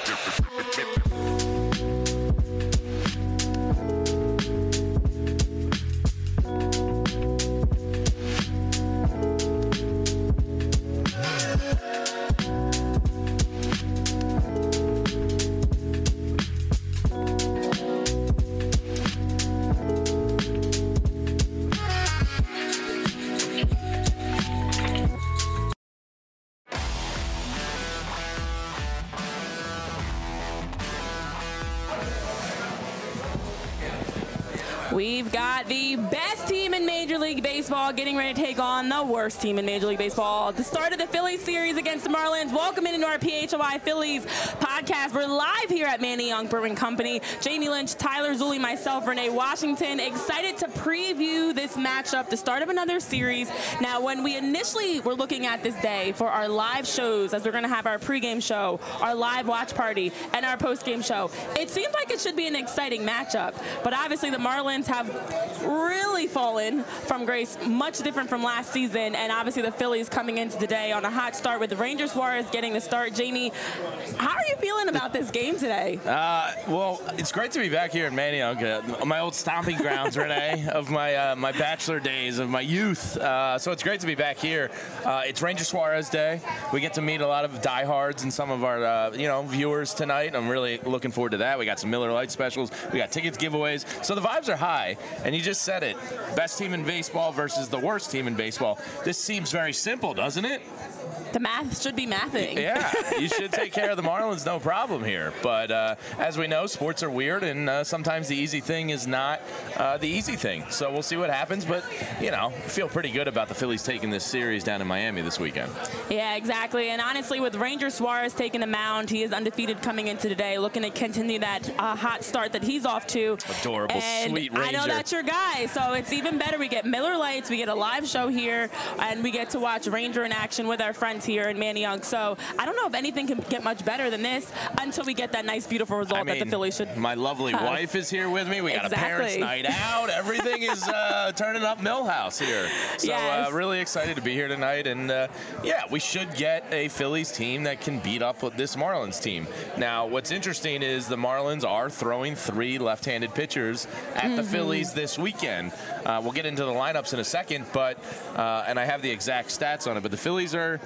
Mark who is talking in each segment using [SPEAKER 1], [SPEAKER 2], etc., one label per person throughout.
[SPEAKER 1] We've got the best team in Major League Baseball getting ready to take on the worst team in Major League Baseball. The start of the Phillies series against the Marlins. Welcome into our PHLY Phillies podcast. We're live here at Manny Young Brewing Company. Jamie Lynch, Tyler Zulli, myself, Renee Washington. Excited to preview this matchup, the start of another series. Now, when we initially were looking at this day for our live shows, as we're going to have our pregame show, our live watch party, and our postgame show, it seemed like it should be an exciting matchup. But obviously, the Marlins have really fallen from grace, much different from last season, and obviously the Phillies coming into today on a hot start with the Ranger Suarez getting the start. Jamie, how are you feeling about this game today?
[SPEAKER 2] Well, it's great to be back here in Manny Young, my old stomping grounds, Renee, of my bachelor days, of my youth. So it's great to be back here. It's Ranger Suarez Day. We get to meet a lot of diehards and some of our viewers tonight. I'm really looking forward to that. We got some Miller Lite specials. We got tickets giveaways. So the vibes are high. And you just said it. Best team in baseball versus the worst team in baseball. This seems very simple, doesn't it?
[SPEAKER 1] The math should be mathing.
[SPEAKER 2] Yeah, you should take care of the Marlins, no problem here. But as we know, sports are weird, and sometimes the easy thing is not the easy thing. So we'll see what happens. But, feel pretty good about the Phillies taking this series down in Miami this weekend.
[SPEAKER 1] Yeah, exactly. And honestly, with Ranger Suarez taking the mound, he is undefeated coming into today, looking to continue that hot start that he's off to.
[SPEAKER 2] Adorable,
[SPEAKER 1] and
[SPEAKER 2] sweet Ranger.
[SPEAKER 1] I know that's your guy, so it's even better. We get Miller Lights, we get a live show here, and we get to watch Ranger in action with our friends here in Manny Young. So I don't know if anything can get much better than this until we get that nice, beautiful result that the Phillies should.
[SPEAKER 2] My lovely wife is here with me. We got a parents' night out. Everything is turning up Millhouse here. So
[SPEAKER 1] yes.
[SPEAKER 2] Really excited to be here tonight. And we should get a Phillies team that can beat up this Marlins team. Now, what's interesting is the Marlins are throwing 3 left-handed pitchers at the Phillies this weekend. We'll get into the lineups in a second, but and I have the exact stats on it. But the Phillies are.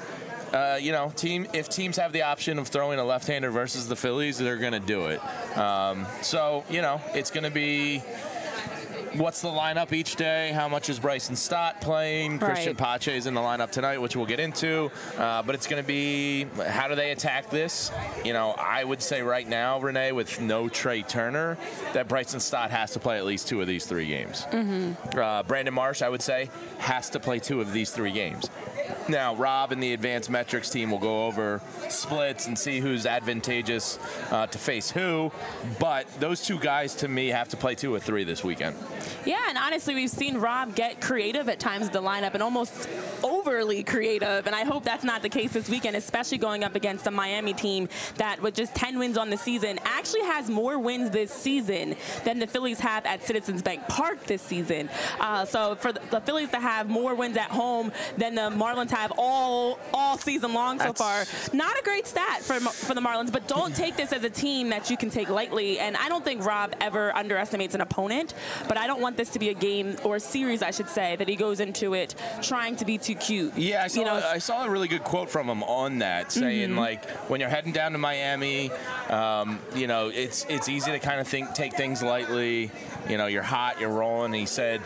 [SPEAKER 2] If teams have the option of throwing a left-hander versus the Phillies, they're going to do it. It's going to be what's the lineup each day, how much is Bryson Stott playing,
[SPEAKER 1] right.
[SPEAKER 2] Christian Pache's in the lineup tonight, which we'll get into. But it's going to be how do they attack this? I would say right now, Renee, with no Trey Turner, that Bryson Stott has to play at least 2 of these 3 games. Brandon Marsh, I would say, has to play 2 of these 3 games. Now, Rob and the advanced metrics team will go over splits and see who's advantageous to face who. But those 2 guys, to me, have to play 2 or 3 this weekend.
[SPEAKER 1] Yeah, and honestly, we've seen Rob get creative at times in the lineup and almost overly creative. And I hope that's not the case this weekend, especially going up against a Miami team that, with just 10 wins on the season, actually has more wins this season than the Phillies have at Citizens Bank Park this season. So for the Phillies to have more wins at home than the Marlins have all season long so far, not a great stat for the Marlins, but don't take this as a team that you can take lightly. And I don't think Rob ever underestimates an opponent, but I don't want this to be a game or a series, I should say, that he goes into it trying to be too cute.
[SPEAKER 2] Yeah, I saw a really good quote from him on that, saying when you're heading down to Miami, it's easy to kind of take things lightly. You're hot, you're rolling. And he said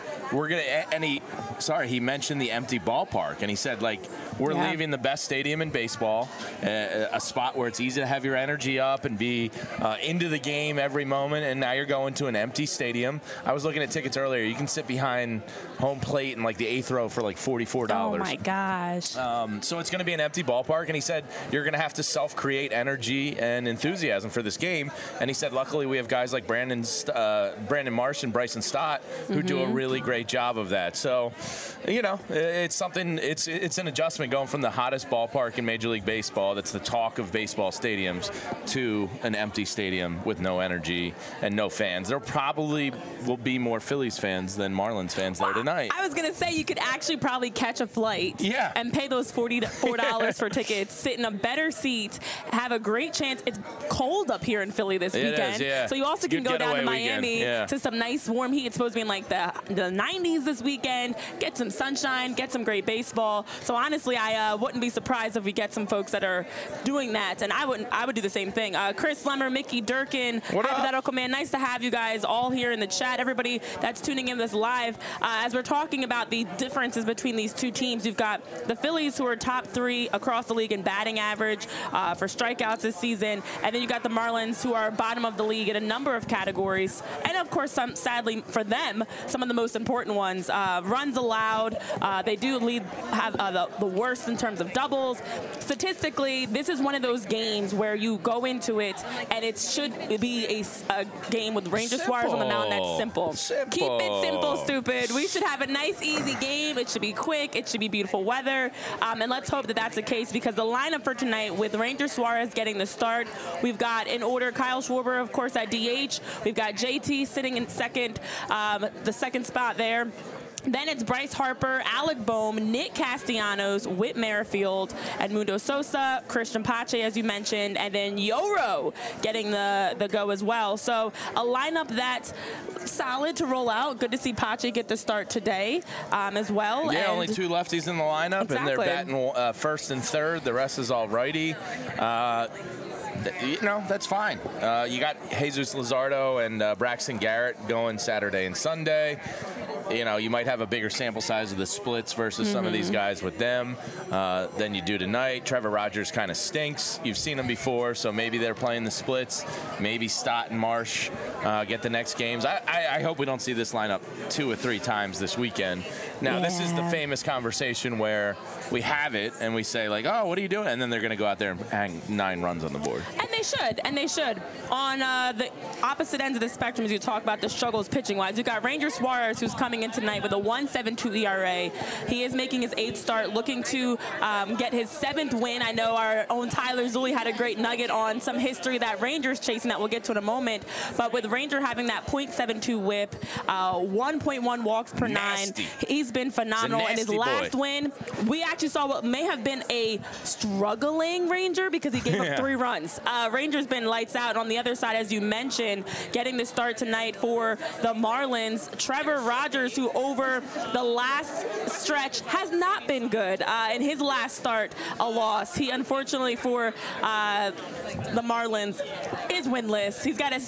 [SPEAKER 2] he mentioned the empty ballpark, and he said we're leaving the best stadium in baseball, a spot where it's easy to have your energy up and be into the game every moment, and now you're going to an empty stadium. I was looking at tickets earlier. You can sit behind home plate in the 8th row for $44.
[SPEAKER 1] Oh my gosh.
[SPEAKER 2] So it's going to be an empty ballpark, and he said you're going to have to self-create energy and enthusiasm for this game. And he said luckily we have guys like Brandon Marsh and Bryson Stott who do a really great job of that. So it's something, it's an adjustment going from the hottest ballpark in Major League Baseball, that's the talk of baseball stadiums, to an empty stadium with no energy and no fans. There probably will be more Phillies fans than Marlins fans there tonight.
[SPEAKER 1] I was going to say you could actually probably catch a flight
[SPEAKER 2] and
[SPEAKER 1] pay those $44 for tickets, sit in a better seat, have a great chance. It's cold up here in Philly this weekend.
[SPEAKER 2] So
[SPEAKER 1] you also can go down to Miami to some nice warm heat. It's supposed to be in like the 90s this weekend. Get some sunshine, get some great baseball. So honestly, I wouldn't be surprised if we get some folks that are doing that, and I would do the same thing. Chris Lemmer, Mickey Durkin, Hypothetical Man, nice to have you guys all here in the chat. Everybody that's tuning in this live, as we're talking about the differences between these two teams, you've got the Phillies, who are top 3 across the league in batting average for strikeouts this season, and then you got the Marlins, who are bottom of the league in a number of categories, and of course, sadly for them, some of the most important ones. Runs allowed, they do have the worst in terms of doubles. Statistically, this is one of those games where you go into it and it should be a game with Ranger Suarez on the mound that's simple. Keep it simple, stupid. We should have a nice, easy game. It should be quick. It should be beautiful weather. And let's hope that that's the case, because the lineup for tonight, with Ranger Suarez getting the start, we've got in order Kyle Schwarber, of course, at DH. We've got JT sitting in second, the second spot there. Then it's Bryce Harper, Alec Bohm, Nick Castellanos, Whit Merrifield, Edmundo Sosa, Christian Pache, as you mentioned, and then Yoro getting the go as well. So a lineup that's solid to roll out. Good to see Pache get the start today as well.
[SPEAKER 2] Yeah, only 2 lefties in the lineup, and they're batting first and third. The rest is all righty. That's fine. You got Jesus Luzardo and Braxton Garrett going Saturday and Sunday. You might have a bigger sample size of the splits versus some of these guys with them than you do tonight. Trevor Rogers kind of stinks. You've seen him before, so maybe they're playing the splits. Maybe Stott and Marsh get the next games. I hope we don't see this lineup 2 or 3 times this weekend. Now, this is the famous conversation where we have it and we say, like, oh, what are you doing? And then they're going to go out there and hang 9 runs on the board.
[SPEAKER 1] And they should. On the opposite ends of the spectrum, as you talk about the struggles pitching-wise, you've got Ranger Suarez, who's coming in tonight with a 1.72 ERA. He is making his 8th start, looking to get his 7th win. I know our own Tyler Zulli had a great nugget on some history that Ranger's chasing that we'll get to in a moment. But with Ranger having that .72 whip, 1.1 walks per 9, he's been phenomenal. And his last win, we actually saw what may have been a struggling Ranger, because he gave up 3 runs. Ranger's been lights out. On the other side, as you mentioned, getting the start tonight for the Marlins, Trevor Rogers, who over the last stretch has not been good. In his last start, a loss. He, unfortunately for the Marlins, is winless. He's got a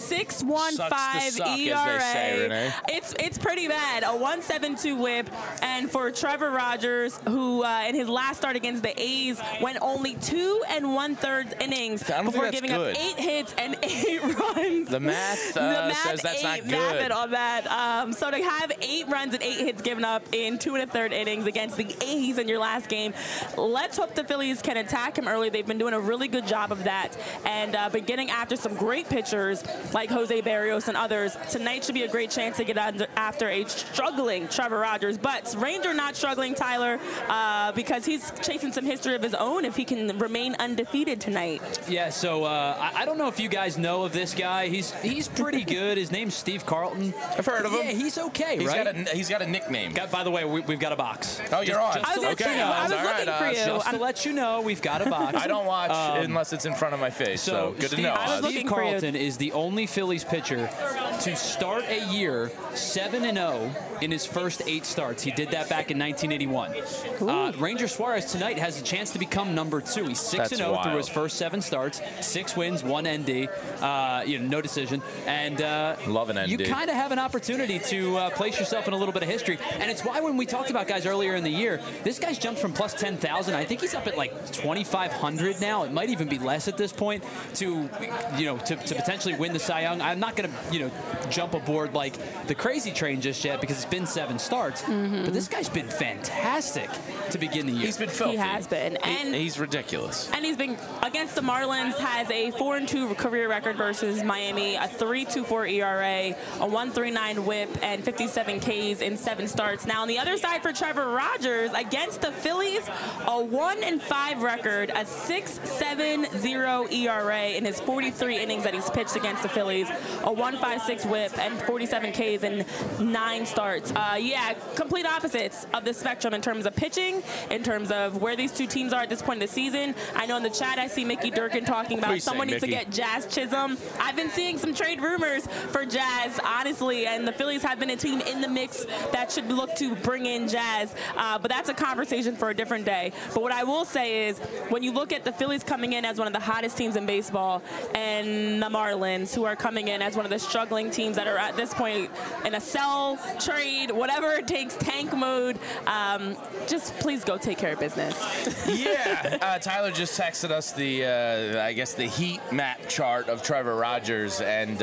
[SPEAKER 1] 6.15 ERA.
[SPEAKER 2] Say,
[SPEAKER 1] it's pretty bad. A 1.72 whip. And for Trevor Rogers, who in his last start against the A's went only 2 1/3 innings before giving up 8 hits and 8 runs.
[SPEAKER 2] The math says that's not good.
[SPEAKER 1] Math it on that. So to have 8 runs and 8 hits given up in 2 1/3 innings against the A's in your last game, let's hope the Phillies can attack him early. They've been doing a really good job of that, and been getting after some great pitchers like Jose Barrios and others. Tonight should be a great chance to get after a struggling Trevor Rogers. But Ranger not struggling, Tyler, because he's chasing some history of his own if he can remain undefeated tonight.
[SPEAKER 3] Yeah, so I don't know if you guys know of this guy. He's pretty good. His name's Steve Carlton.
[SPEAKER 2] I've heard of him.
[SPEAKER 3] Yeah, he's okay, right?
[SPEAKER 2] He's got a nickname.
[SPEAKER 3] By the way, we've got a box.
[SPEAKER 2] Oh, you're on.
[SPEAKER 1] I was looking for you.
[SPEAKER 3] Just to let you know, we've got a box.
[SPEAKER 2] I don't watch unless it's in front of my face, so good to know.
[SPEAKER 3] Steve Carlton is the only Phillies pitcher to start a year 7-0 in his first 8 starts. He did that back in 1981. Ranger Suarez tonight has a chance to become number 2. He's 6-0 through his first 7 starts, 6 wins, 1 ND, no decision. And
[SPEAKER 2] love an ND.
[SPEAKER 3] You kind of have an opportunity to place yourself in a little bit of history. And it's why when we talked about guys earlier in the year, this guy's jumped from plus 10,000. I think he's up at like 2,500 now. It might even be less at this point to potentially win the Cy Young. I'm not going to, jump aboard like the crazy train just yet because it's been 7 starts. But this guy's been fantastic to begin the year.
[SPEAKER 2] He's been filthy.
[SPEAKER 1] He has been. And
[SPEAKER 2] he's ridiculous.
[SPEAKER 1] And he's been against the Marlins, has a 4-2 career record versus Miami, a 3.24 ERA, a 1.39 WHIP, and 57 Ks in 7 starts. Now on the other side for Trevor Rogers, against the Phillies, a 1-5 record, a 6.70 ERA in his 43 innings that he's pitched against the Phillies, a 1.56 WHIP, and 47 Ks in 9 starts. Yeah, complete opposites of the spectrum in terms of pitching, in terms of where these two teams are at this point in the season. I know in the chat I see Mickey Durkin talking about someone needs to get Jazz Chisholm. I've been seeing some trade rumors for Jazz, honestly, and the Phillies have been a team in the mix that should look to bring in Jazz, but that's a conversation for a different day. But what I will say is, when you look at the Phillies coming in as one of the hottest teams in baseball, and the Marlins, who are coming in as one of the struggling teams that are at this point in a sell, trade, whatever it takes, tank mode, just please go take care of business.
[SPEAKER 2] Yeah, Tyler just texted us the, I guess, the heat map chart of Trevor Rogers, and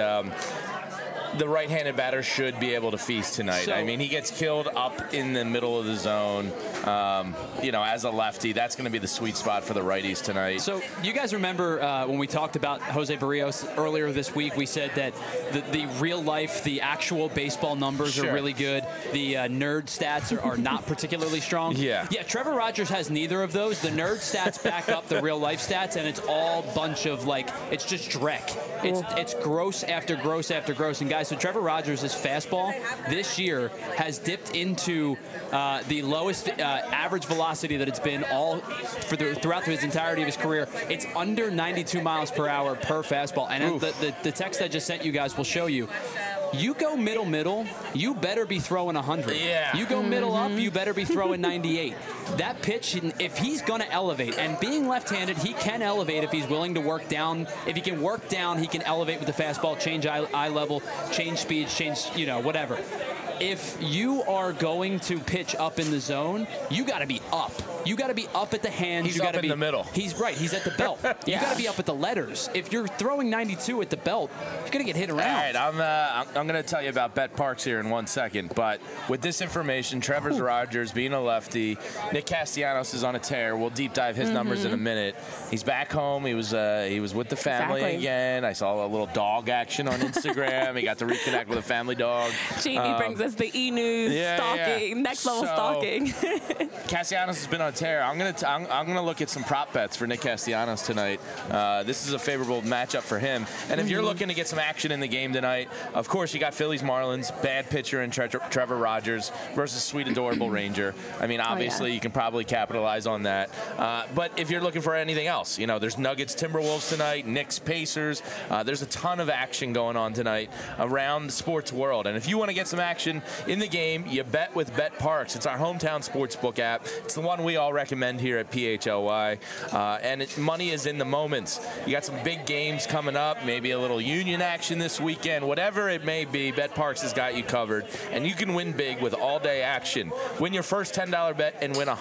[SPEAKER 2] the right-handed batter should be able to feast tonight. I mean, he gets killed up in the middle of the zone. As a lefty, that's going to be the sweet spot for the righties tonight.
[SPEAKER 3] So you guys remember when we talked about Jose Barrios earlier this week, we said that the real life, the actual baseball numbers are really good. The nerd stats are not particularly strong.
[SPEAKER 2] Yeah,
[SPEAKER 3] Trevor Rogers has neither of those. The nerd stats back up the real life stats, and it's all bunch of, like, it's just dreck. It's gross after gross after gross. And guys, so Trevor Rogers' fastball this year has dipped into the lowest average velocity that it's been throughout his entirety of his career. It's under 92 miles per hour per fastball. And the text I just sent you guys will show you. You go middle, you better be throwing 100.
[SPEAKER 2] Yeah.
[SPEAKER 3] You go middle up, you better be throwing 98. That pitch, if he's going to elevate, and being left-handed, he can elevate if he's willing to work down. If he can work down, he can elevate with the fastball, change eye level, change speed, change, whatever. If you are going to pitch up in the zone, you got to be up. You got to be up at the hands.
[SPEAKER 2] He's
[SPEAKER 3] you
[SPEAKER 2] up in the middle.
[SPEAKER 3] He's right. He's at the belt. You got to be up at the letters. If you're throwing 92 at the belt, you're going to get hit around.
[SPEAKER 2] All right, I'm going to tell you about Bet Parks here in 1 second. But with this information, Trevor Rogers being a lefty, Nick Castellanos is on a tear. We'll deep dive his numbers in a minute. He's back home. He was with the family again. I saw a little dog action on Instagram. He got to reconnect with a family dog.
[SPEAKER 1] Jeannie brings us the E-News stalking, next level stalking.
[SPEAKER 2] Castellanos has been on a tear. I'm gonna look at some prop bets for Nick Castellanos tonight. This is a favorable matchup for him. And if you're looking to get some action in the game tonight, of course you got Phillies Marlins, bad pitcher in Trevor Rogers versus sweet adorable Ranger. I mean, obviously you can probably capitalize on that. But if you're looking for anything else, there's Nuggets Timberwolves tonight, Knicks Pacers. There's a ton of action going on tonight around the sports world. And if you want to get some action in the game, you bet with Bet Parks. It's our hometown sportsbook app. It's the one we all recommend here at PHLY. And money is in the moments. You got some big games coming up, maybe a little Union action this weekend. Whatever it may be, Bet Parks has got you covered. And you can win big with all-day action. Win your first $10 bet and win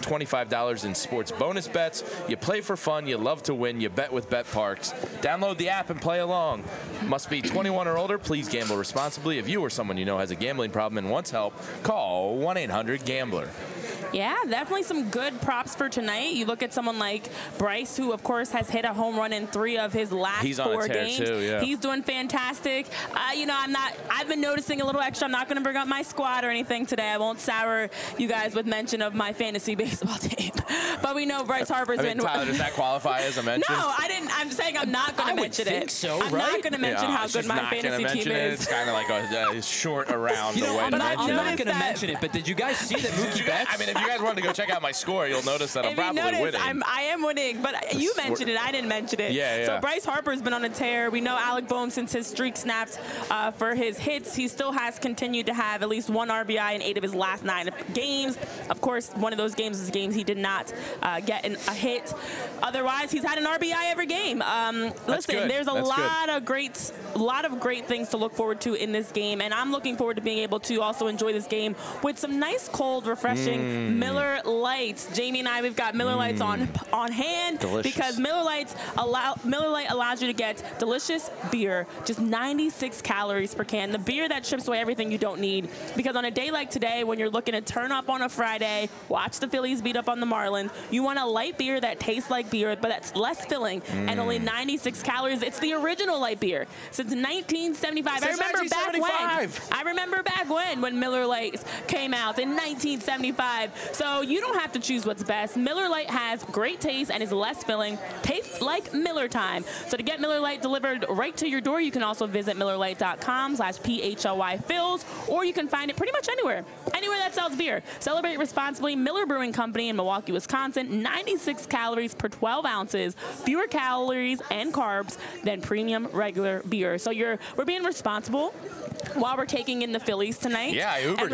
[SPEAKER 2] $125 in sports bonus bets. You play for fun. You love to win. You bet with Bet Parks. Download the app and play along. Must be 21 or older. Please gamble responsibly. If you or someone you know has a gambling problem and wants help, call 1-800-GAMBLER.
[SPEAKER 1] Yeah, definitely some good props for tonight. You look at someone like Bryce, who, of course, has hit a home run in 3 of his last 4 games. Too, yeah. He's doing fantastic. I've been noticing a little extra. I'm not going to bring up my squad or anything today. I won't sour you guys with mention of my fantasy baseball team. But we know Bryce Harper's been.
[SPEAKER 2] Tyler, does that qualify as a mention?
[SPEAKER 1] No, I didn't. I'm saying I'm not going to mention it.
[SPEAKER 3] So,
[SPEAKER 1] I'm not going to mention how good my fantasy team is.
[SPEAKER 2] It's kind of like a short around the way
[SPEAKER 3] I'm
[SPEAKER 2] to mention it.
[SPEAKER 3] not going to mention it, but did you guys see that Mookie Betts?
[SPEAKER 2] I mean, if you guys wanted to go check out my score, you'll notice that I'm probably winning.
[SPEAKER 1] I am winning, but you mentioned it. I didn't mention it.
[SPEAKER 2] Yeah.
[SPEAKER 1] So Bryce Harper's been on a tear. We know Alec Boehm, since his streak snapped for his hits, he still has continued to have at least 1 RBI in 8 of his last 9 games. Of course, one of those games is games he did not get a hit. Otherwise, he's had an RBI every game. Listen, there's a lot of great things to look forward to in this game, and I'm looking forward to being able to also enjoy this game with some nice, cold, refreshing Miller Lights. Jamie and I, we've got Miller Lights on hand.
[SPEAKER 2] Delicious.
[SPEAKER 1] Because Miller Light allows you to get delicious beer, just 96 calories per can. The beer that strips away everything you don't need. Because on a day like today, when you're looking to turn up on a Friday, watch the Phillies beat up on the Marlins, you want a light beer that tastes like beer, but that's less filling and only 96 calories. It's the original light beer since 1975.
[SPEAKER 2] Since
[SPEAKER 1] I remember back when Miller Lite came out in 1975. So you don't have to choose what's best. Miller Lite has great taste and is less filling. Tastes like Miller time. So to get Miller Lite delivered right to your door, you can also visit MillerLite.com/PHLYFills, or you can find it pretty much anywhere that sells beer. Celebrate responsibly. Miller Brewing Company in Milwaukee, Wisconsin. 96 calories per 12 ounces. Fewer calories and carbs than premium regular beer. So we're being responsible while we're taking in the Phillies tonight.
[SPEAKER 2] Yeah, I Ubered
[SPEAKER 1] and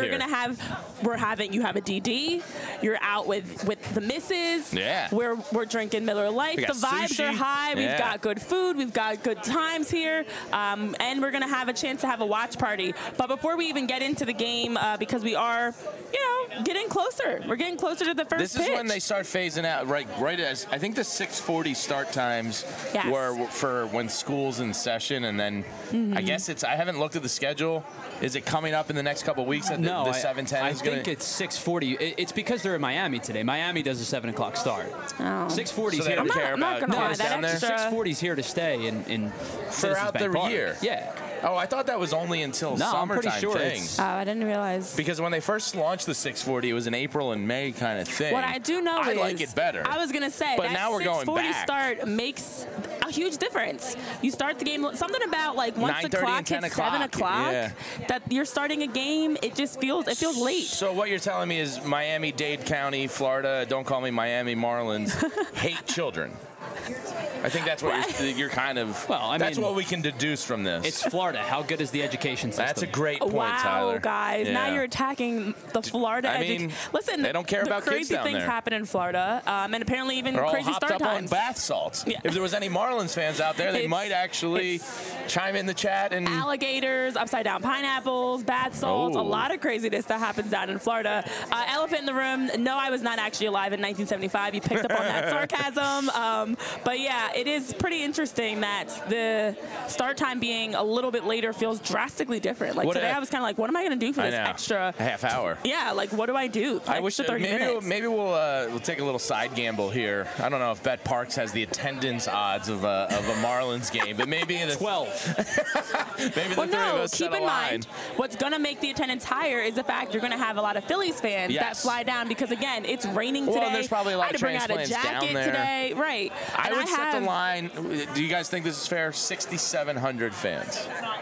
[SPEAKER 2] here.
[SPEAKER 1] you have a DD. You're out with the missus.
[SPEAKER 2] Yeah.
[SPEAKER 1] We're drinking Miller Lite. The vibes
[SPEAKER 2] sushi.
[SPEAKER 1] are high. We've
[SPEAKER 2] Yeah.
[SPEAKER 1] got good food. We've got good times here. And we're going to have a chance to have a watch party. But before we even get into the game, because we are, getting closer. We're getting closer to the first
[SPEAKER 2] This
[SPEAKER 1] pitch.
[SPEAKER 2] is when they start phasing out, right as I think the 6:40 start times
[SPEAKER 1] Yes.
[SPEAKER 2] were for when school's in session, and then I guess I haven't looked at the schedule. Is it coming up in the next couple of weeks that
[SPEAKER 3] No,
[SPEAKER 2] the 7:10
[SPEAKER 3] I
[SPEAKER 2] is going
[SPEAKER 3] think
[SPEAKER 2] to?
[SPEAKER 3] it's 6:40. It's because they're in Miami today. Miami does a 7 o'clock start.
[SPEAKER 1] Oh.
[SPEAKER 3] 6:40 is
[SPEAKER 2] So they
[SPEAKER 3] here.
[SPEAKER 2] don't care
[SPEAKER 1] I'm not
[SPEAKER 2] about
[SPEAKER 1] gonna lie,
[SPEAKER 2] kids
[SPEAKER 1] that
[SPEAKER 2] down there?
[SPEAKER 1] extra-
[SPEAKER 3] 6:40 is here to stay in Citizens
[SPEAKER 2] Throughout
[SPEAKER 3] Bank
[SPEAKER 2] the
[SPEAKER 3] Park.
[SPEAKER 2] year?
[SPEAKER 3] Yeah.
[SPEAKER 2] Oh, I thought that was only until
[SPEAKER 3] No, I'm pretty
[SPEAKER 2] summertime
[SPEAKER 3] sure
[SPEAKER 2] thing.
[SPEAKER 3] it's-
[SPEAKER 1] Oh, I didn't realize.
[SPEAKER 2] Because when they first launched the 6:40, it was an April and May kind of thing.
[SPEAKER 1] What I do know
[SPEAKER 2] I
[SPEAKER 1] is
[SPEAKER 2] like it better.
[SPEAKER 1] I was gonna say
[SPEAKER 2] But
[SPEAKER 1] that
[SPEAKER 2] now we're going
[SPEAKER 1] 6:40
[SPEAKER 2] back.
[SPEAKER 1] start makes a huge difference. You start the game something about like once the
[SPEAKER 2] 9:30
[SPEAKER 1] clock
[SPEAKER 2] and 10
[SPEAKER 1] hits 7 o'clock
[SPEAKER 2] yeah.
[SPEAKER 1] that you're starting a game. It feels late.
[SPEAKER 2] So what you're telling me is Miami-Dade County, Florida, don't call me Miami Marlins, hate children. I think that's what you're kind of.
[SPEAKER 3] Well, I
[SPEAKER 2] that's
[SPEAKER 3] mean,
[SPEAKER 2] what we can deduce from this.
[SPEAKER 3] It's Florida. How good is the education system?
[SPEAKER 2] That's a great point,
[SPEAKER 1] Wow,
[SPEAKER 2] Tyler.
[SPEAKER 1] guys!
[SPEAKER 2] Yeah.
[SPEAKER 1] Now you're attacking the Florida.
[SPEAKER 2] I mean,
[SPEAKER 1] listen,
[SPEAKER 2] they don't care
[SPEAKER 1] the
[SPEAKER 2] about kids
[SPEAKER 1] crazy
[SPEAKER 2] down
[SPEAKER 1] things
[SPEAKER 2] there.
[SPEAKER 1] happen in Florida, and apparently even
[SPEAKER 2] They're all
[SPEAKER 1] crazy
[SPEAKER 2] hopped
[SPEAKER 1] start
[SPEAKER 2] up
[SPEAKER 1] times.
[SPEAKER 2] on bath salts.
[SPEAKER 1] Yeah.
[SPEAKER 2] If there was any Marlins fans out there, they
[SPEAKER 1] It's-
[SPEAKER 2] might actually chime in the chat and.
[SPEAKER 1] Alligators, upside down pineapples, bath salts, a
[SPEAKER 2] Oh.
[SPEAKER 1] lot of craziness that happens down in Florida. Elephant in the room. No, I was not actually alive in 1975. You picked up on that sarcasm. But yeah, it is pretty interesting that the start time being a little bit later feels drastically different. Like today, I was kind of like, what am I going to do for
[SPEAKER 2] I
[SPEAKER 1] this
[SPEAKER 2] know.
[SPEAKER 1] extra
[SPEAKER 2] half hour?
[SPEAKER 1] Yeah, like what do I do?
[SPEAKER 2] I wish
[SPEAKER 1] 30 minutes.
[SPEAKER 2] maybe we'll take a little side gamble here. I don't know if Bet Parks has the attendance odds of a Marlins game, but maybe the
[SPEAKER 3] 12.
[SPEAKER 2] maybe the
[SPEAKER 1] Well,
[SPEAKER 2] three of
[SPEAKER 1] no,
[SPEAKER 2] us
[SPEAKER 1] keep
[SPEAKER 2] set a
[SPEAKER 1] in
[SPEAKER 2] line.
[SPEAKER 1] mind, what's going to make the attendance higher is the fact you're going to have a lot of Phillies fans that
[SPEAKER 2] Yes.
[SPEAKER 1] fly down because, again, it's raining today.
[SPEAKER 2] Well, there's probably a lot
[SPEAKER 1] I had
[SPEAKER 2] of
[SPEAKER 1] to bring out a
[SPEAKER 2] transplants down
[SPEAKER 1] jacket
[SPEAKER 2] there.
[SPEAKER 1] today. Right.
[SPEAKER 2] I
[SPEAKER 1] And
[SPEAKER 2] would set
[SPEAKER 1] have,
[SPEAKER 2] the line. Do you guys think this is fair? 6,700 fans.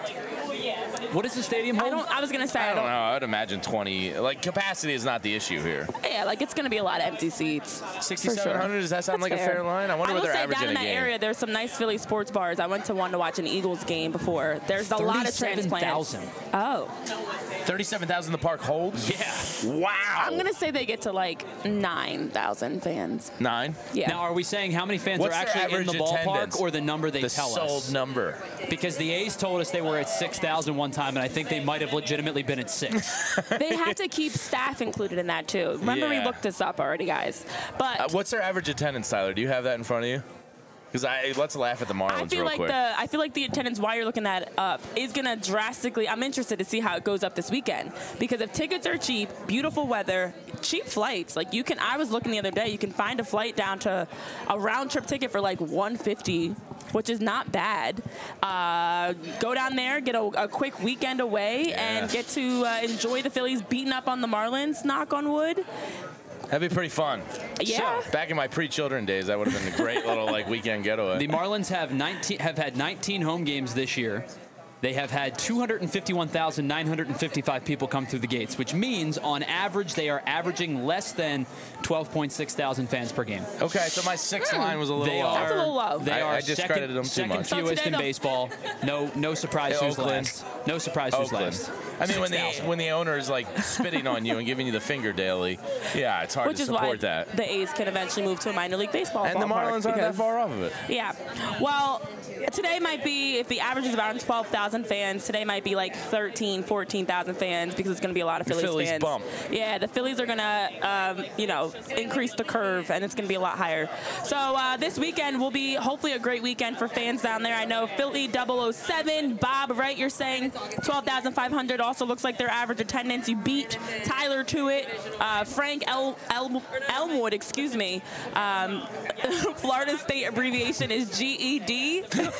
[SPEAKER 3] What does the stadium hold?
[SPEAKER 1] I was going to say,
[SPEAKER 2] I don't know. I would imagine 20. Like capacity is not the issue here.
[SPEAKER 1] Yeah, like it's going to be a lot of empty seats.
[SPEAKER 2] 6,700. Does that sound
[SPEAKER 1] That's
[SPEAKER 2] like a fair line? I wonder what
[SPEAKER 1] will
[SPEAKER 2] they're
[SPEAKER 1] say
[SPEAKER 2] averaging
[SPEAKER 1] down in
[SPEAKER 2] a
[SPEAKER 1] that
[SPEAKER 2] game.
[SPEAKER 1] area, there's some nice Philly sports bars. I went to one to watch an Eagles game before. There's a lot of transplants.
[SPEAKER 3] 37,000.
[SPEAKER 1] Oh.
[SPEAKER 2] 37,000 the park holds?
[SPEAKER 3] Yeah.
[SPEAKER 2] Wow.
[SPEAKER 1] I'm going to say they get to like 9,000 fans.
[SPEAKER 2] 9?
[SPEAKER 1] Yeah.
[SPEAKER 3] Now, are we saying how many fans
[SPEAKER 2] What's
[SPEAKER 3] are
[SPEAKER 2] their
[SPEAKER 3] actually in the
[SPEAKER 2] average
[SPEAKER 3] ballpark
[SPEAKER 2] attendance?
[SPEAKER 3] or the number they
[SPEAKER 2] The
[SPEAKER 3] tell
[SPEAKER 2] sold
[SPEAKER 3] us?
[SPEAKER 2] number.
[SPEAKER 3] Because the A's told us they were at 6,000 one time, and I think they might have legitimately been at 6.
[SPEAKER 1] They have to keep staff included in that too. Remember, we
[SPEAKER 2] Yeah.
[SPEAKER 1] looked this up already, guys. But
[SPEAKER 2] What's their average attendance, Tyler? Do you have that in front of you? Because let's laugh at the Marlins
[SPEAKER 1] I feel
[SPEAKER 2] real
[SPEAKER 1] like
[SPEAKER 2] quick.
[SPEAKER 1] I feel like the attendance while you're looking that up is gonna drastically. I'm interested to see how it goes up this weekend because if tickets are cheap, beautiful weather, cheap flights, like you can. I was looking the other day, you can find a flight down to a round trip ticket for like $150. Which is not bad. Go down there, get a quick weekend away, and get to enjoy the Phillies beating up on the Marlins. Knock on wood.
[SPEAKER 2] That'd be pretty fun.
[SPEAKER 1] Yeah.
[SPEAKER 2] So, back in my pre-children days, that would have been a great little weekend getaway.
[SPEAKER 3] The Marlins have had 19 home games this year. They have had 251,955 people come through the gates, which means on average they are averaging less than 12.6 thousand fans per game.
[SPEAKER 2] Okay, so my sixth line was a little low.
[SPEAKER 1] That's a little low.
[SPEAKER 3] They
[SPEAKER 2] I
[SPEAKER 3] are
[SPEAKER 2] discredited them too
[SPEAKER 3] second
[SPEAKER 2] much.
[SPEAKER 1] So
[SPEAKER 3] fewest
[SPEAKER 1] today
[SPEAKER 3] in
[SPEAKER 1] they'll-
[SPEAKER 3] baseball. No surprise
[SPEAKER 2] Yeah,
[SPEAKER 3] who's
[SPEAKER 2] Oakland.
[SPEAKER 3] last. No surprise who's
[SPEAKER 2] Oakland.
[SPEAKER 3] last.
[SPEAKER 2] I mean,
[SPEAKER 3] 6,000.
[SPEAKER 2] when the owner is spitting on you and giving you the finger daily, yeah, it's hard
[SPEAKER 1] Which
[SPEAKER 2] to
[SPEAKER 1] is why
[SPEAKER 2] support that.
[SPEAKER 1] the A's can eventually move to a minor league baseball
[SPEAKER 2] And the
[SPEAKER 1] ballpark
[SPEAKER 2] Marlins aren't that
[SPEAKER 1] because-
[SPEAKER 2] far off of it.
[SPEAKER 1] Yeah. Well, today might be, if the average is around 12,000 12,000 fans. Today might be like 13, 14,000 fans because it's going to be a lot of Phillies fans.
[SPEAKER 2] Bump.
[SPEAKER 1] Yeah, the Phillies are going to, increase the curve, and it's going to be a lot higher. So this weekend will be hopefully a great weekend for fans down there. I know Philly 007, Bob, right? You're saying 12,500 also looks like their average attendance. You beat Tyler to it. Frank Elmwood, excuse me. Florida State abbreviation is GED.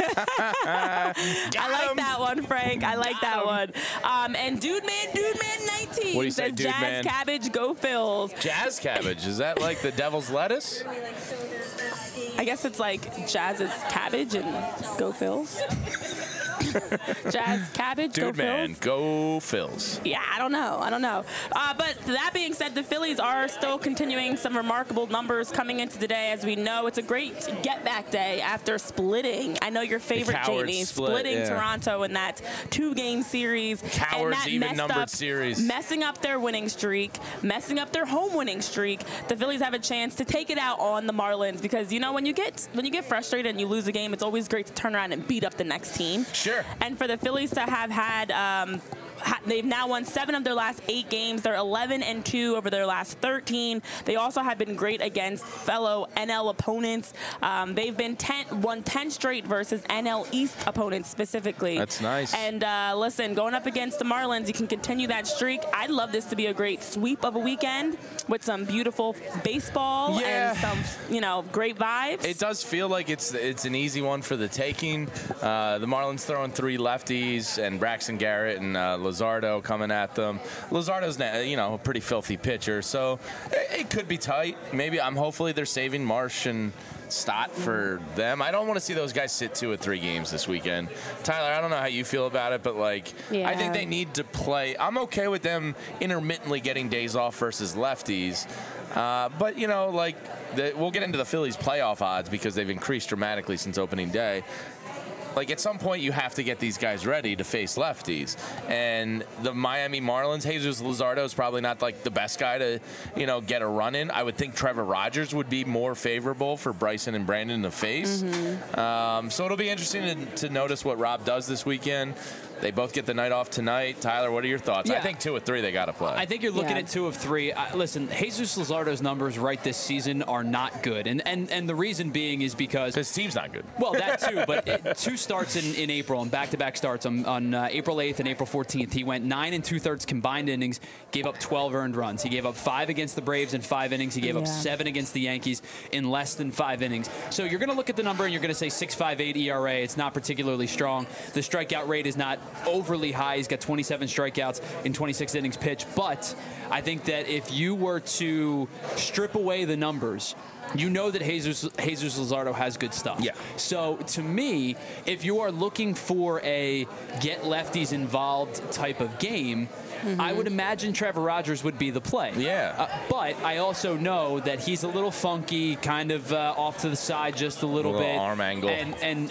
[SPEAKER 1] I like that one, Frank. I like that one. And Dude Man 19
[SPEAKER 2] what do you say,
[SPEAKER 1] says
[SPEAKER 2] Dude
[SPEAKER 1] Jazz
[SPEAKER 2] Man?
[SPEAKER 1] Cabbage, go Phils.
[SPEAKER 2] Jazz cabbage. Is that like the devil's lettuce?
[SPEAKER 1] I guess it's like Jazz's cabbage and go Phils. Jazz Cabbage,
[SPEAKER 2] Dude,
[SPEAKER 1] go
[SPEAKER 2] man,
[SPEAKER 1] Phils.
[SPEAKER 2] go Phils.
[SPEAKER 1] Yeah, I don't know. But that being said, the Phillies are still continuing some remarkable numbers coming into today. As we know, it's a great get-back day after splitting. I know your favorite, Jamie, splitting Toronto in that 2-game series.
[SPEAKER 2] Cowards,
[SPEAKER 1] and that
[SPEAKER 2] even-numbered series.
[SPEAKER 1] Messing up their winning streak, messing up their home winning streak. The Phillies have a chance to take it out on the Marlins because, when you get frustrated and you lose a game, it's always great to turn around and beat up the next team.
[SPEAKER 2] Sure.
[SPEAKER 1] And for the Phillies to have had, they've now won 7 of their last 8 games. They're 11-2 over their last 13. They also have been great against fellow NL opponents. They've been won 10 straight versus NL East opponents specifically.
[SPEAKER 2] That's nice.
[SPEAKER 1] And listen, going up against the Marlins, you can continue that streak. I'd love this to be a great sweep of a weekend with some beautiful baseball and some, great vibes.
[SPEAKER 2] It does feel like it's an easy one for the taking. The Marlins throwing 3 lefties and Braxton Garrett and Luzardo coming at them. Luzardo's a pretty filthy pitcher, so it could be tight. Hopefully they're saving Marsh and Stott for them. I don't want to see those guys sit 2 or 3 games this weekend. Tyler, I don't know how you feel about it, but I think they need to play. I'm okay with them intermittently getting days off versus lefties. But we'll get into the Phillies playoff odds because they've increased dramatically since opening day. At some point, you have to get these guys ready to face lefties. And the Miami Marlins, Jesus Luzardo is probably not the best guy to, get a run in. I would think Trevor Rogers would be more favorable for Bryson and Brandon to face.
[SPEAKER 1] Mm-hmm.
[SPEAKER 2] So it'll be interesting to notice what Rob does this weekend. They both get the night off tonight. Tyler, what are your thoughts?
[SPEAKER 3] Yeah.
[SPEAKER 2] I think 2 of 3 they got to play.
[SPEAKER 3] I think you're looking at 2 of 3. Listen, Jesus Luzardo's numbers right this season are not good. And the reason being is because
[SPEAKER 2] his team's not good.
[SPEAKER 3] Well, that too, but 2 starts in April and back-to-back starts on April 8th and April 14th. He went 9 2/3 combined innings, gave up 12 earned runs. He gave up 5 against the Braves in 5 innings. He gave up 7 against the Yankees in less than 5 innings. So you're going to look at the number and you're going to say 6.58 ERA. It's not particularly strong. The strikeout rate is not overly high. He's got 27 strikeouts in 26 innings pitched. But I think that if you were to strip away the numbers, you know that Jesus Luzardo has good stuff.
[SPEAKER 2] Yeah.
[SPEAKER 3] So to me, if you are looking for a get lefties involved type of game, I would imagine Trevor Rogers would be the play.
[SPEAKER 2] Yeah.
[SPEAKER 3] But I also know that he's a little funky, kind of off to the side just a little bit.
[SPEAKER 2] Arm angle.
[SPEAKER 3] And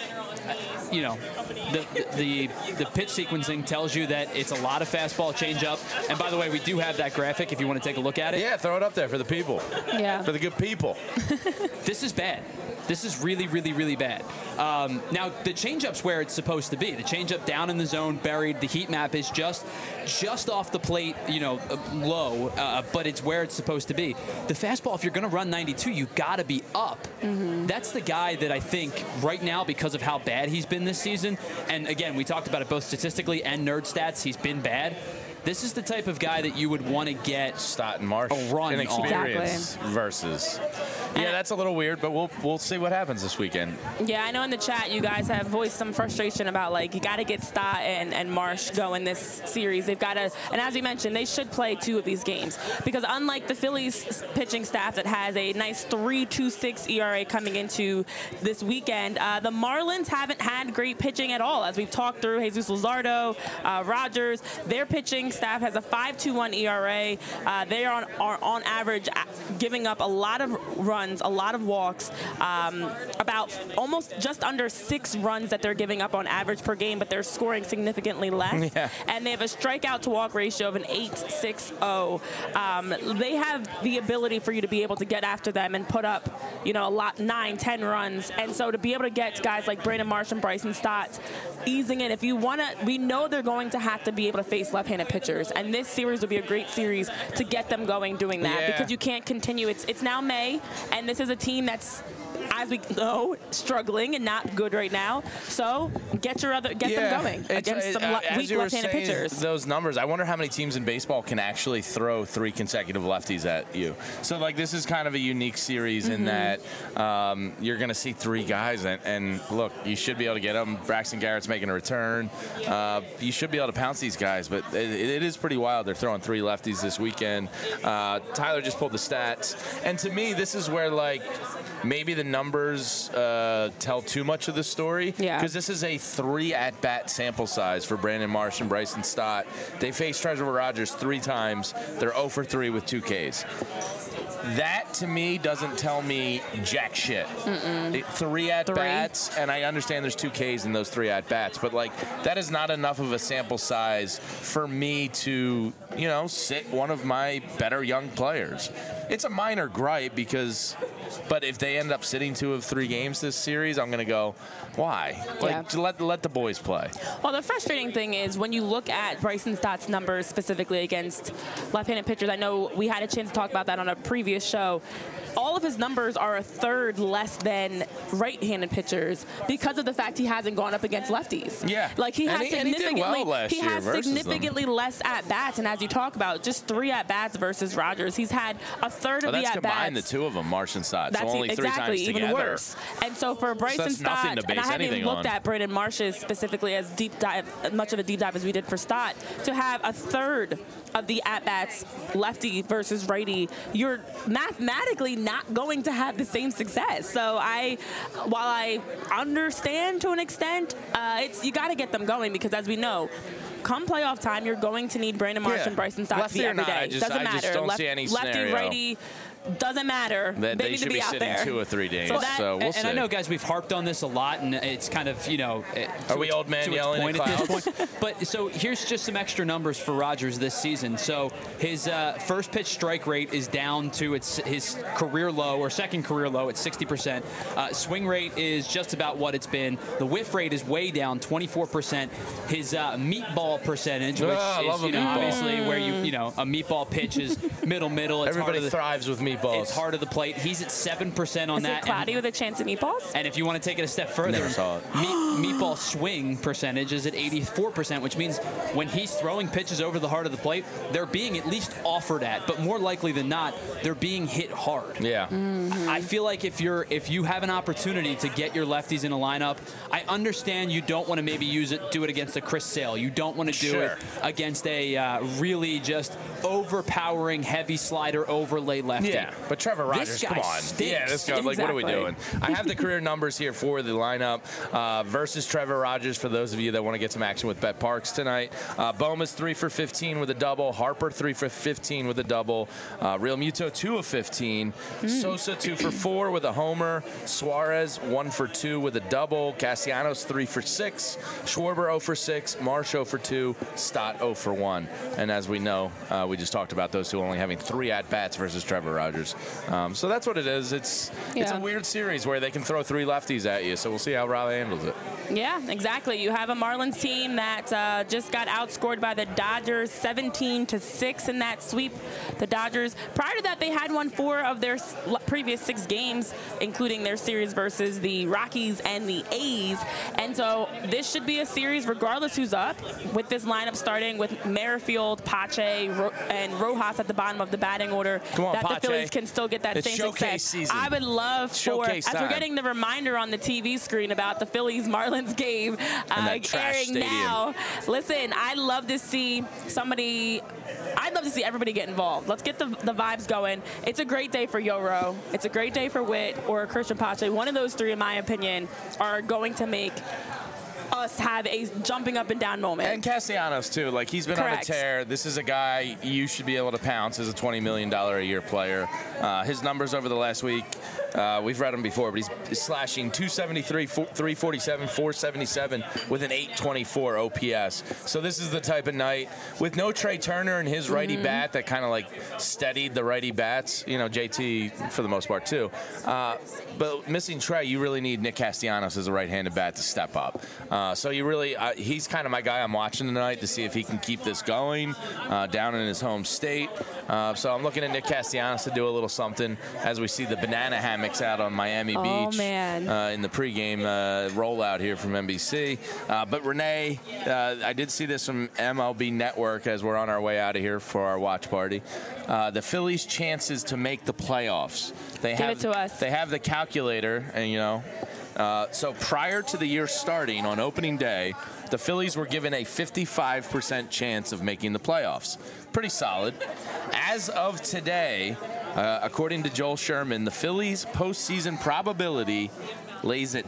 [SPEAKER 3] the pitch sequencing tells you that it's a lot of fastball changeup. And by the way, we do have that graphic if you want to take a look at it.
[SPEAKER 2] Yeah, throw it up there for the people.
[SPEAKER 1] Yeah.
[SPEAKER 2] For the good people.
[SPEAKER 3] This is bad. This is really, really, really bad. Now, the changeup's where it's supposed to be. The changeup down in the zone, buried. The heat map is just off the plate, low, but it's where it's supposed to be. The fastball, if you're going to run 92, you got to be up. Mm-hmm. That's the guy that I think right now, because of how bad he's been this season, and again, we talked about it both statistically and nerd stats, he's been bad. This is the type of guy that you would want to get
[SPEAKER 2] Stott and Marsh
[SPEAKER 3] a run
[SPEAKER 2] in experience
[SPEAKER 1] Exactly.
[SPEAKER 2] versus. Yeah, that's a little weird, but we'll see what happens this weekend.
[SPEAKER 1] Yeah, I know in the chat you guys have voiced some frustration about you got to get Stott and Marsh going this series. They've got to, and as we mentioned, they should play 2 of these games because unlike the Phillies pitching staff that has a nice 3.26 ERA coming into this weekend, the Marlins haven't had great pitching at all. As we've talked through, Jesus Luzardo, Rogers, their pitching staff has a 5.21 ERA. They are on average giving up a lot of runs, a lot of walks, about almost just under 6 runs that they're giving up on average per game, but they're scoring significantly less.
[SPEAKER 2] Yeah.
[SPEAKER 1] And they have a strikeout to walk ratio of an 8.60. They have the ability for you to be able to get after them and put up, a lot, 9, 10 runs. And so to be able to get guys like Brandon Marsh and Bryson Stott easing it. If you want to, we know they're going to have to be able to face left-handed pitchers, and this series will be a great series to get them going doing that because you can't continue. It's now May, and this is a team that's, as we know, struggling and not good right now. So get them going against some weak left-handed pitchers.
[SPEAKER 2] Those numbers, I wonder how many teams in baseball can actually throw 3 consecutive lefties at you. So like this is kind of a unique series in that you're going to see 3 guys, and look, you should be able to get them. Braxton Garrett's making a return. You should be able to pounce these guys, but it is pretty wild. They're throwing 3 lefties this weekend. Tyler just pulled the stats, and to me, this is where like maybe the numbers tell too much of the story because this is a 3 at-bat sample size for Brandon Marsh and Bryson Stott. They faced Trevor Rogers 3 times. They're 0 for 3 with 2 Ks. That, to me, doesn't tell me jack shit. 3 at-bats, and I understand there's 2 Ks in those 3 at-bats, but, like, that is not enough of a sample size for me to, you know, sit one of my better young players. It's a minor gripe but if they end up sitting 2 of 3 games this series, I'm going to go, why? Like, let the boys play.
[SPEAKER 1] Well, the frustrating thing is when you look at Bryson Stott's numbers specifically against left-handed pitchers, I know we had a chance to talk about that on a previous show. All of his numbers are a third less than right-handed pitchers because of the fact he hasn't gone up against lefties.
[SPEAKER 2] Yeah.
[SPEAKER 1] Like he has significantly
[SPEAKER 2] them.
[SPEAKER 1] less at-bats, and as you talk about, just 3 at-bats versus Rogers. He's had a third of the at-bats.
[SPEAKER 2] Combine the 2 of them, Marsh and Stott. So only 3 times
[SPEAKER 1] even
[SPEAKER 2] together.
[SPEAKER 1] Worse. And so for Bryson Stott, and I haven't even looked at Brandon Marsh's specifically as much of a deep dive as we did for Stott, to have a third of the at-bats lefty versus righty, you're mathematically not going to have the same success. So while I understand to an extent, you got to get them going because as we know, come playoff time, you're going to need Brandon Marsh and Bryson Stott to be every day. Doesn't matter.
[SPEAKER 2] I just don't see any
[SPEAKER 1] lefty, righty. Doesn't matter.
[SPEAKER 2] They need to be out there. 2 or 3 days. So we'll see.
[SPEAKER 3] And I know, guys, we've harped on this a lot, and it's kind of, you know,
[SPEAKER 2] are we old man yelling at clouds?
[SPEAKER 3] But so here's just some extra numbers for Rogers this season. So his first pitch strike rate is down to his career low or second career low at 60%. Swing rate is just about what it's been. The whiff rate is way down, 24%. His meatball percentage, which is obviously where a meatball pitch is middle. It's
[SPEAKER 2] everybody thrives with meatballs.
[SPEAKER 3] It's hard of the plate. He's at 7% on that.
[SPEAKER 1] Is it cloudy with a chance of meatballs?
[SPEAKER 3] And if you want to take it a step further, meatball swing percentage is at 84%, which means when he's throwing pitches over the heart of the plate, they're being at least offered at, but more likely than not, they're being hit hard.
[SPEAKER 2] Yeah.
[SPEAKER 3] I feel like if you have an opportunity to get your lefties in a lineup, I understand you don't want to do it against a Chris Sale. You don't want to do it against a really just overpowering heavy slider overlay lefty.
[SPEAKER 2] Yeah, but Trevor Rogers, come on.
[SPEAKER 3] Stinks.
[SPEAKER 2] Yeah, this guy, like, what are we doing? I have the career numbers here for the lineup versus Trevor Rogers for those of you that want to get some action with Bet Parks tonight. Boma's 3 for 15 with a double. Harper 3 for 15 with a double. Real Muto 2 of 15. Sosa 2 for 4 with a homer. Suarez 1 for 2 with a double. Castellanos 3 for 6. Schwarber 0 for 6. Marsh 0 for 2. Stott 0 for 1. And as we know, we just talked about those two only having 3 at-bats versus Trevor Rogers. So that's what it is. It's a weird series where they can throw 3 lefties at you. So we'll see how Raleigh handles it.
[SPEAKER 1] Yeah, exactly. You have a Marlins team that just got outscored by the Dodgers 17-6 in that sweep. The Dodgers, prior to that, they had won 4 of their previous 6 games, including their series versus the Rockies and the A's. And so this should be a series regardless who's up, with this lineup starting with Merrifield, Pache, and Rojas at the bottom of the batting order.
[SPEAKER 2] Come on,
[SPEAKER 1] that
[SPEAKER 2] Pache.
[SPEAKER 1] The Phillies can still get that same success.
[SPEAKER 2] Season.
[SPEAKER 1] I would love
[SPEAKER 2] showcase
[SPEAKER 1] as we're getting the reminder on the TV screen about the Phillies-Marlins game airing now. Listen, I'd love to see everybody get involved. Let's get the vibes going. It's a great day for Yoro. It's a great day for Witt or Christian Pache. One of those 3, in my opinion, are going to make us have a jumping up and down moment.
[SPEAKER 2] And Castellanos, too. Like, he's been on a tear. This is a guy you should be able to pounce as a $20 million a year player. His numbers over the last week, We've read him before, but he's slashing 273, 347, 477 with an 824 OPS. So this is the type of night with no Trey Turner and his righty bat that kind of like steadied the righty bats. You know, JT for the most part too. But missing Trey, you really need Nick Castellanos as a right-handed bat to step up. So you really, he's kind of my guy I'm watching tonight to see if he can keep this going down in his home state. So I'm looking at Nick Castellanos to do a little something as we see the banana hammocks out on Miami Beach in the pregame rollout here from NBC. But Renee, I did see this from MLB Network as we're on our way out of here for our watch party. The Phillies' chances to make the playoffs. Give it to us. They have the calculator, and you know. So prior to the year starting on opening day, the Phillies were given a 55% chance of making the playoffs. Pretty solid. As of today, according to Joel Sherman, the Phillies' postseason probability lays at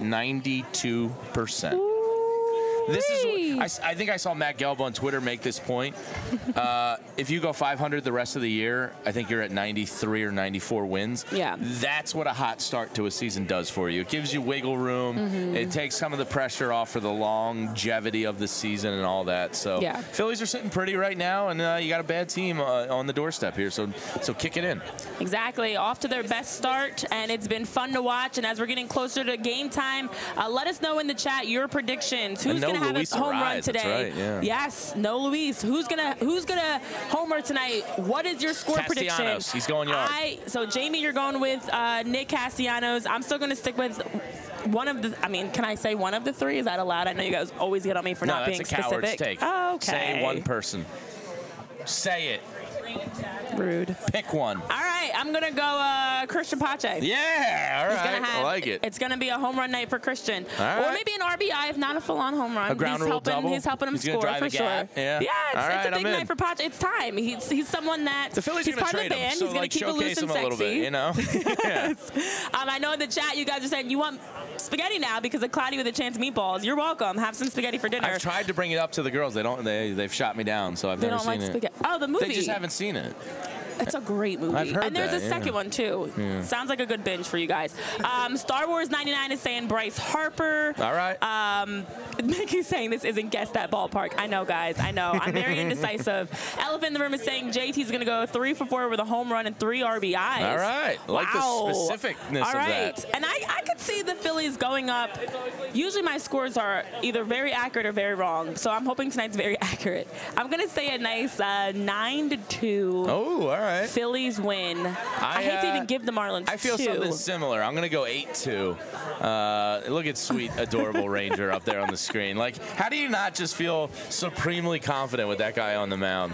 [SPEAKER 2] 92%. This is, I think I saw Matt Gelb on Twitter make this point. If you go 500 the rest of the year, I think you're at 93 or 94 wins. Yeah. That's what a hot start to a season does for you. It gives you wiggle room. It takes some of the pressure off for the longevity of the season and all that. So Phillies are sitting pretty right now, and you got a bad team on the doorstep here. So kick it in.
[SPEAKER 1] Exactly. Off to their best start, and it's been fun to watch. And as we're getting closer to game time, let us know in the chat your predictions. Who's going to have a home run today?
[SPEAKER 2] Right,
[SPEAKER 1] yes, no Luis. Who's gonna homer tonight? What is your score prediction?
[SPEAKER 2] He's going yard.
[SPEAKER 1] So Jamie, you're going with Nick Castellanos. I'm still going to stick with one of the. I mean, can I say one of the three? Is that allowed? I know you guys always get on me for not being specific.
[SPEAKER 2] No, that's a coward's take.
[SPEAKER 1] Oh, okay.
[SPEAKER 2] Say one person. Say it.
[SPEAKER 1] Rude.
[SPEAKER 2] Pick one.
[SPEAKER 1] All right, I'm going to go Christian Pache.
[SPEAKER 2] Yeah, all right. I like it.
[SPEAKER 1] It's going to be a home run night for Christian.
[SPEAKER 2] Or
[SPEAKER 1] maybe an RBI, if not a full-on home run.
[SPEAKER 2] A ground rule double?
[SPEAKER 1] He's helping him score for sure.
[SPEAKER 2] Yeah,
[SPEAKER 1] it's a big night for Pache. It's time. He's someone that
[SPEAKER 2] the Phillies
[SPEAKER 1] he's
[SPEAKER 2] are going
[SPEAKER 1] part
[SPEAKER 2] to
[SPEAKER 1] of the band.
[SPEAKER 2] Him, so
[SPEAKER 1] he's going to keep it loose and
[SPEAKER 2] sexy. A little bit, you know?
[SPEAKER 1] I know in the chat you guys are saying you want spaghetti now because of Cloudy with a Chance meatballs. You're welcome. Have some spaghetti for dinner.
[SPEAKER 2] I've tried to bring it up to the girls. They've shot me down, so I've never seen it.
[SPEAKER 1] Spaghetti. Oh, the movie.
[SPEAKER 2] They just haven't seen it.
[SPEAKER 1] It's a great movie.
[SPEAKER 2] I've heard
[SPEAKER 1] and there's a second one, too.
[SPEAKER 2] Yeah.
[SPEAKER 1] Sounds like a good binge for you guys. Star Wars 99 is saying Bryce Harper.
[SPEAKER 2] All right.
[SPEAKER 1] Mickey's saying this isn't Guess That Ballpark. I know, guys. I know. I'm very indecisive. Elephant in the Room is saying JT's going to go 3 for 4 with a home run and 3 RBIs.
[SPEAKER 2] All right. Like the specificness of that.
[SPEAKER 1] And I could see the Phillies going up. Usually my scores are either very accurate or very wrong. So I'm hoping tonight's very accurate. I'm going to say a nice 9-2.
[SPEAKER 2] Oh, all right.
[SPEAKER 1] Phillies win. I hate to even give the Marlins
[SPEAKER 2] I feel something similar. I'm going to go 8-2. Look at sweet, adorable Ranger up there on the screen. Like, how do you not just feel supremely confident with that guy on the mound?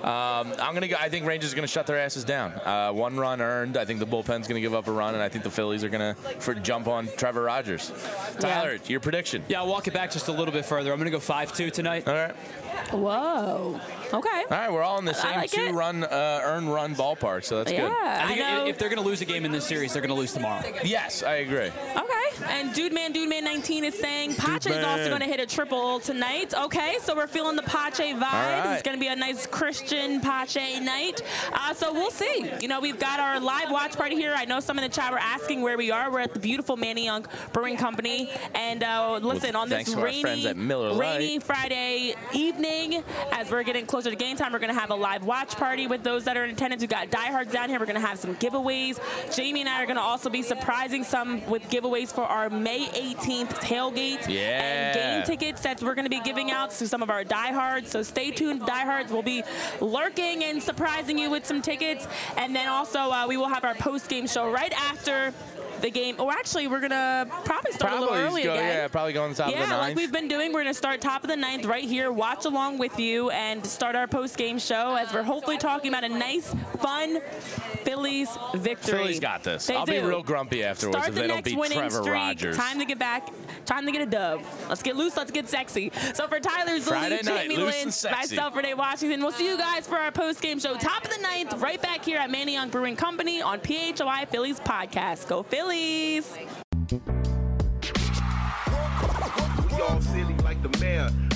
[SPEAKER 2] I think Rangers are going to shut their asses down. 1 run earned. I think the bullpen's going to give up a run, and I think the Phillies are going to jump on Trevor Rogers. Tyler, your prediction?
[SPEAKER 3] Yeah, I'll walk it back just a little bit further. I'm going to go 5-2 tonight.
[SPEAKER 2] All right.
[SPEAKER 1] Whoa. Okay.
[SPEAKER 2] All right, we're all in the same earned run ballpark, so that's good.
[SPEAKER 3] I think if they're going to lose a game in this series, they're going to lose tomorrow.
[SPEAKER 2] Yes, I agree.
[SPEAKER 1] Okay. And Dude Man 19 is saying Pache is also going to hit a triple tonight. Okay, so we're feeling the Pache vibes. Right. It's going to be a nice Christian Pache night. So we'll see. You know, we've got our live watch party here. I know some in the chat were asking where we are. We're at the beautiful Manny Young Brewing Company. And listen, on this rainy Friday evening, as we're getting closer to game time, we're going to have a live watch party with those that are in attendance. We've got diehards down here. We're going to have some giveaways. Jamie and I are going to also be surprising some with giveaways for our May 18th tailgate and game tickets that we're going to be giving out to some of our diehards. So stay tuned, diehards. We'll be lurking and surprising you with some tickets. And then also we will have our post-game show right after the game. Or actually, we're going to probably start a little early again.
[SPEAKER 2] Yeah, probably go on the top of the ninth.
[SPEAKER 1] Yeah, like we've been doing. We're going to start top of the ninth right here, watch along with you, and start our post-game show as we're hopefully talking about a nice, fun Phillies victory.
[SPEAKER 2] Phillies got this. I'll be real grumpy afterwards if they don't beat Trevor Rogers.
[SPEAKER 1] Time to get back. Time to get a dub. Let's get loose. Let's get sexy. So for Tyler Zulli, Jamie Lynch, myself, Renee Washington, we'll see you guys for our post-game show. Top of the ninth, right back here at Manny Young Brewing Company on PHOI Phillies Podcast. Go Phillies!
[SPEAKER 4] We all silly like the mayor.